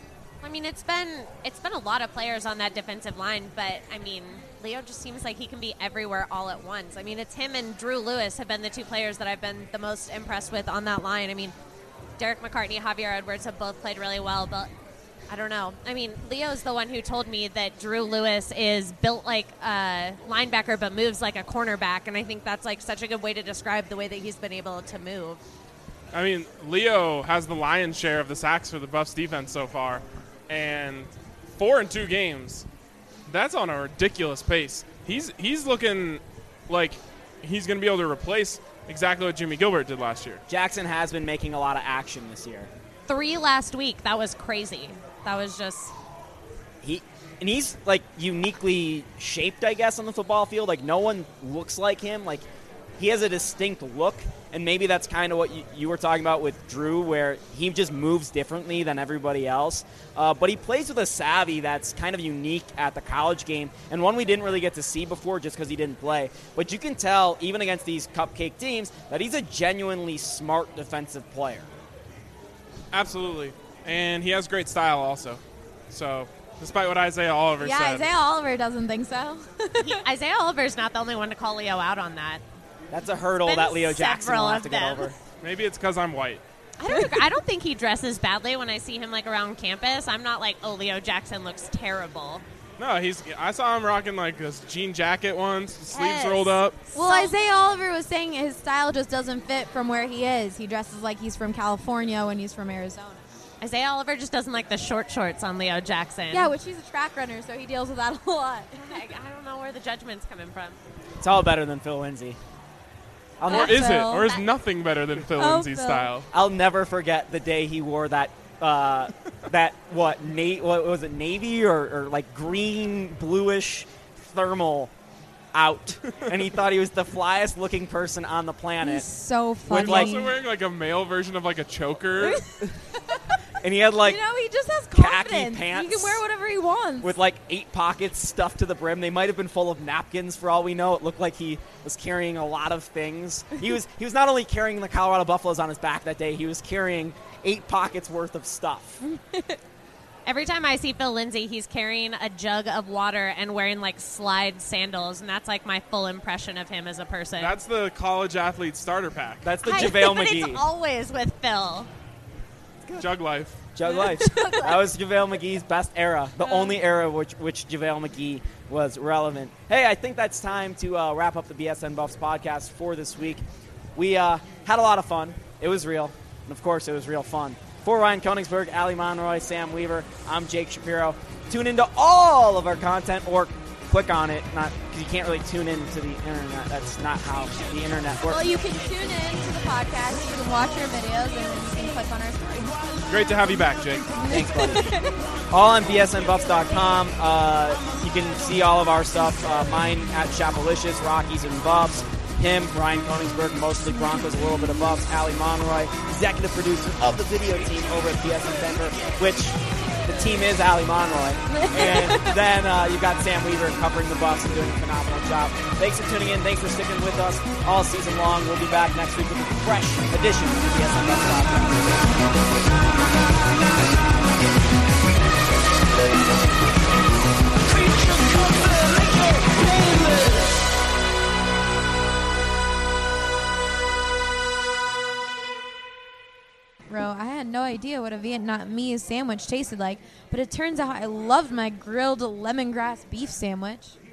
I mean, it's been it's been a lot of players on that defensive line, but I mean, Leo just seems like he can be everywhere all at once. I mean, it's him and Drew Lewis have been the two players that I've been the most impressed with on that line. I mean, Derek McCartney, Javier Edwards have both played really well, but I don't know. I mean, Leo's the one who told me that Drew Lewis is built like a linebacker but moves like a cornerback, and I think that's like such a good way to describe the way that he's been able to move. I mean, Leo has the lion's share of the sacks for the Buffs defense so far, and four in two games. That's on a ridiculous pace. He's he's looking like he's going to be able to replace exactly what Jimmy Gilbert did last year. Jackson has been making a lot of action this year. Three last week. That was crazy. That was just He and he's like uniquely shaped, I guess, on the football field. Like no one looks like him. Like he has a distinct look, and maybe that's kind of what you, you were talking about with Drew, where he just moves differently than everybody else. Uh, but he plays with a savvy that's kind of unique at the college game, and one we didn't really get to see before just because he didn't play. But you can tell, even against these cupcake teams, that he's a genuinely smart defensive player. Absolutely. And he has great style also. So, despite what Isaiah Oliver yeah, said. Isaiah Oliver doesn't think so. he, Isaiah Oliver's not the only one to call Leo out on that. That's a hurdle Been that Leo Jackson several will have of to get them. over. Maybe it's because I'm white. I don't. agree. I don't think he dresses badly when I see him like around campus. I'm not like, oh, Leo Jackson looks terrible. No, he's. I saw him rocking like this jean jacket once, sleeves Yes. rolled up. Well, So- Isaiah Oliver was saying his style just doesn't fit from where he is. He dresses like he's from California when he's from Arizona. Isaiah Oliver just doesn't like the short shorts on Leo Jackson. Yeah, which he's a track runner, so he deals with that a lot. I, I don't know where the judgment's coming from. It's all better than Phil Lindsay. I'll Or never, is it? Phil. Or is nothing better than Phil Oh, Lindsay's Phil. style? I'll never forget the day he wore that uh, that what na- what was it navy or, or like green bluish thermal out, and he thought he was the flyest looking person on the planet. He's so funny. like- Also wearing like a male version of like a choker. And he had like you know, he just has khaki confidence. pants He can wear whatever he wants. with like eight pockets stuffed to the brim. They might have been full of napkins for all we know. It looked like he was carrying a lot of things. He was he was not only carrying the Colorado Buffaloes on his back that day, he was carrying eight pockets worth of stuff. Every time I see Phil Lindsay, he's carrying a jug of water and wearing like slide sandals, and that's like my full impression of him as a person. That's the college athlete starter pack. That's the I- JaVale but McGee. It's always with Phil. Jug life. Jug Life. That was JaVale McGee's best era. The only era which which JaVale McGee was relevant. Hey, I think that's time to uh, wrap up the B S N Buffs podcast for this week. We uh, had a lot of fun. It was real. And, of course, it was real fun. For Ryan Koenigsberg, Ali Monroy, Sam Weaver, I'm Jake Shapiro. Tune into all of our content or click on it, not because you can't really tune into the internet. That's not how the internet works. well, you can tune in to the podcast. You can watch our videos, and then you can click on our stories. Great to have you back, Jake. Thanks, buddy. All on B S N Buffs dot com. Uh, you can see all of our stuff. Uh, mine at Chapelicious, Rockies and Buffs. Him, Ryan Koenigsberg, mostly Broncos, a little bit of Buffs. Ali Monroy, executive producer of the video team over at B S N Denver, which the team is Ali Monroy. And then uh, you've got Sam Weaver covering the Buffs and doing a phenomenal job. Thanks for tuning in. Thanks for sticking with us all season long. We'll be back next week with a fresh edition of the B S N Buffs podcast. Bro, I had no idea what a Vietnamese sandwich tasted like, but it turns out I loved my grilled lemongrass beef sandwich.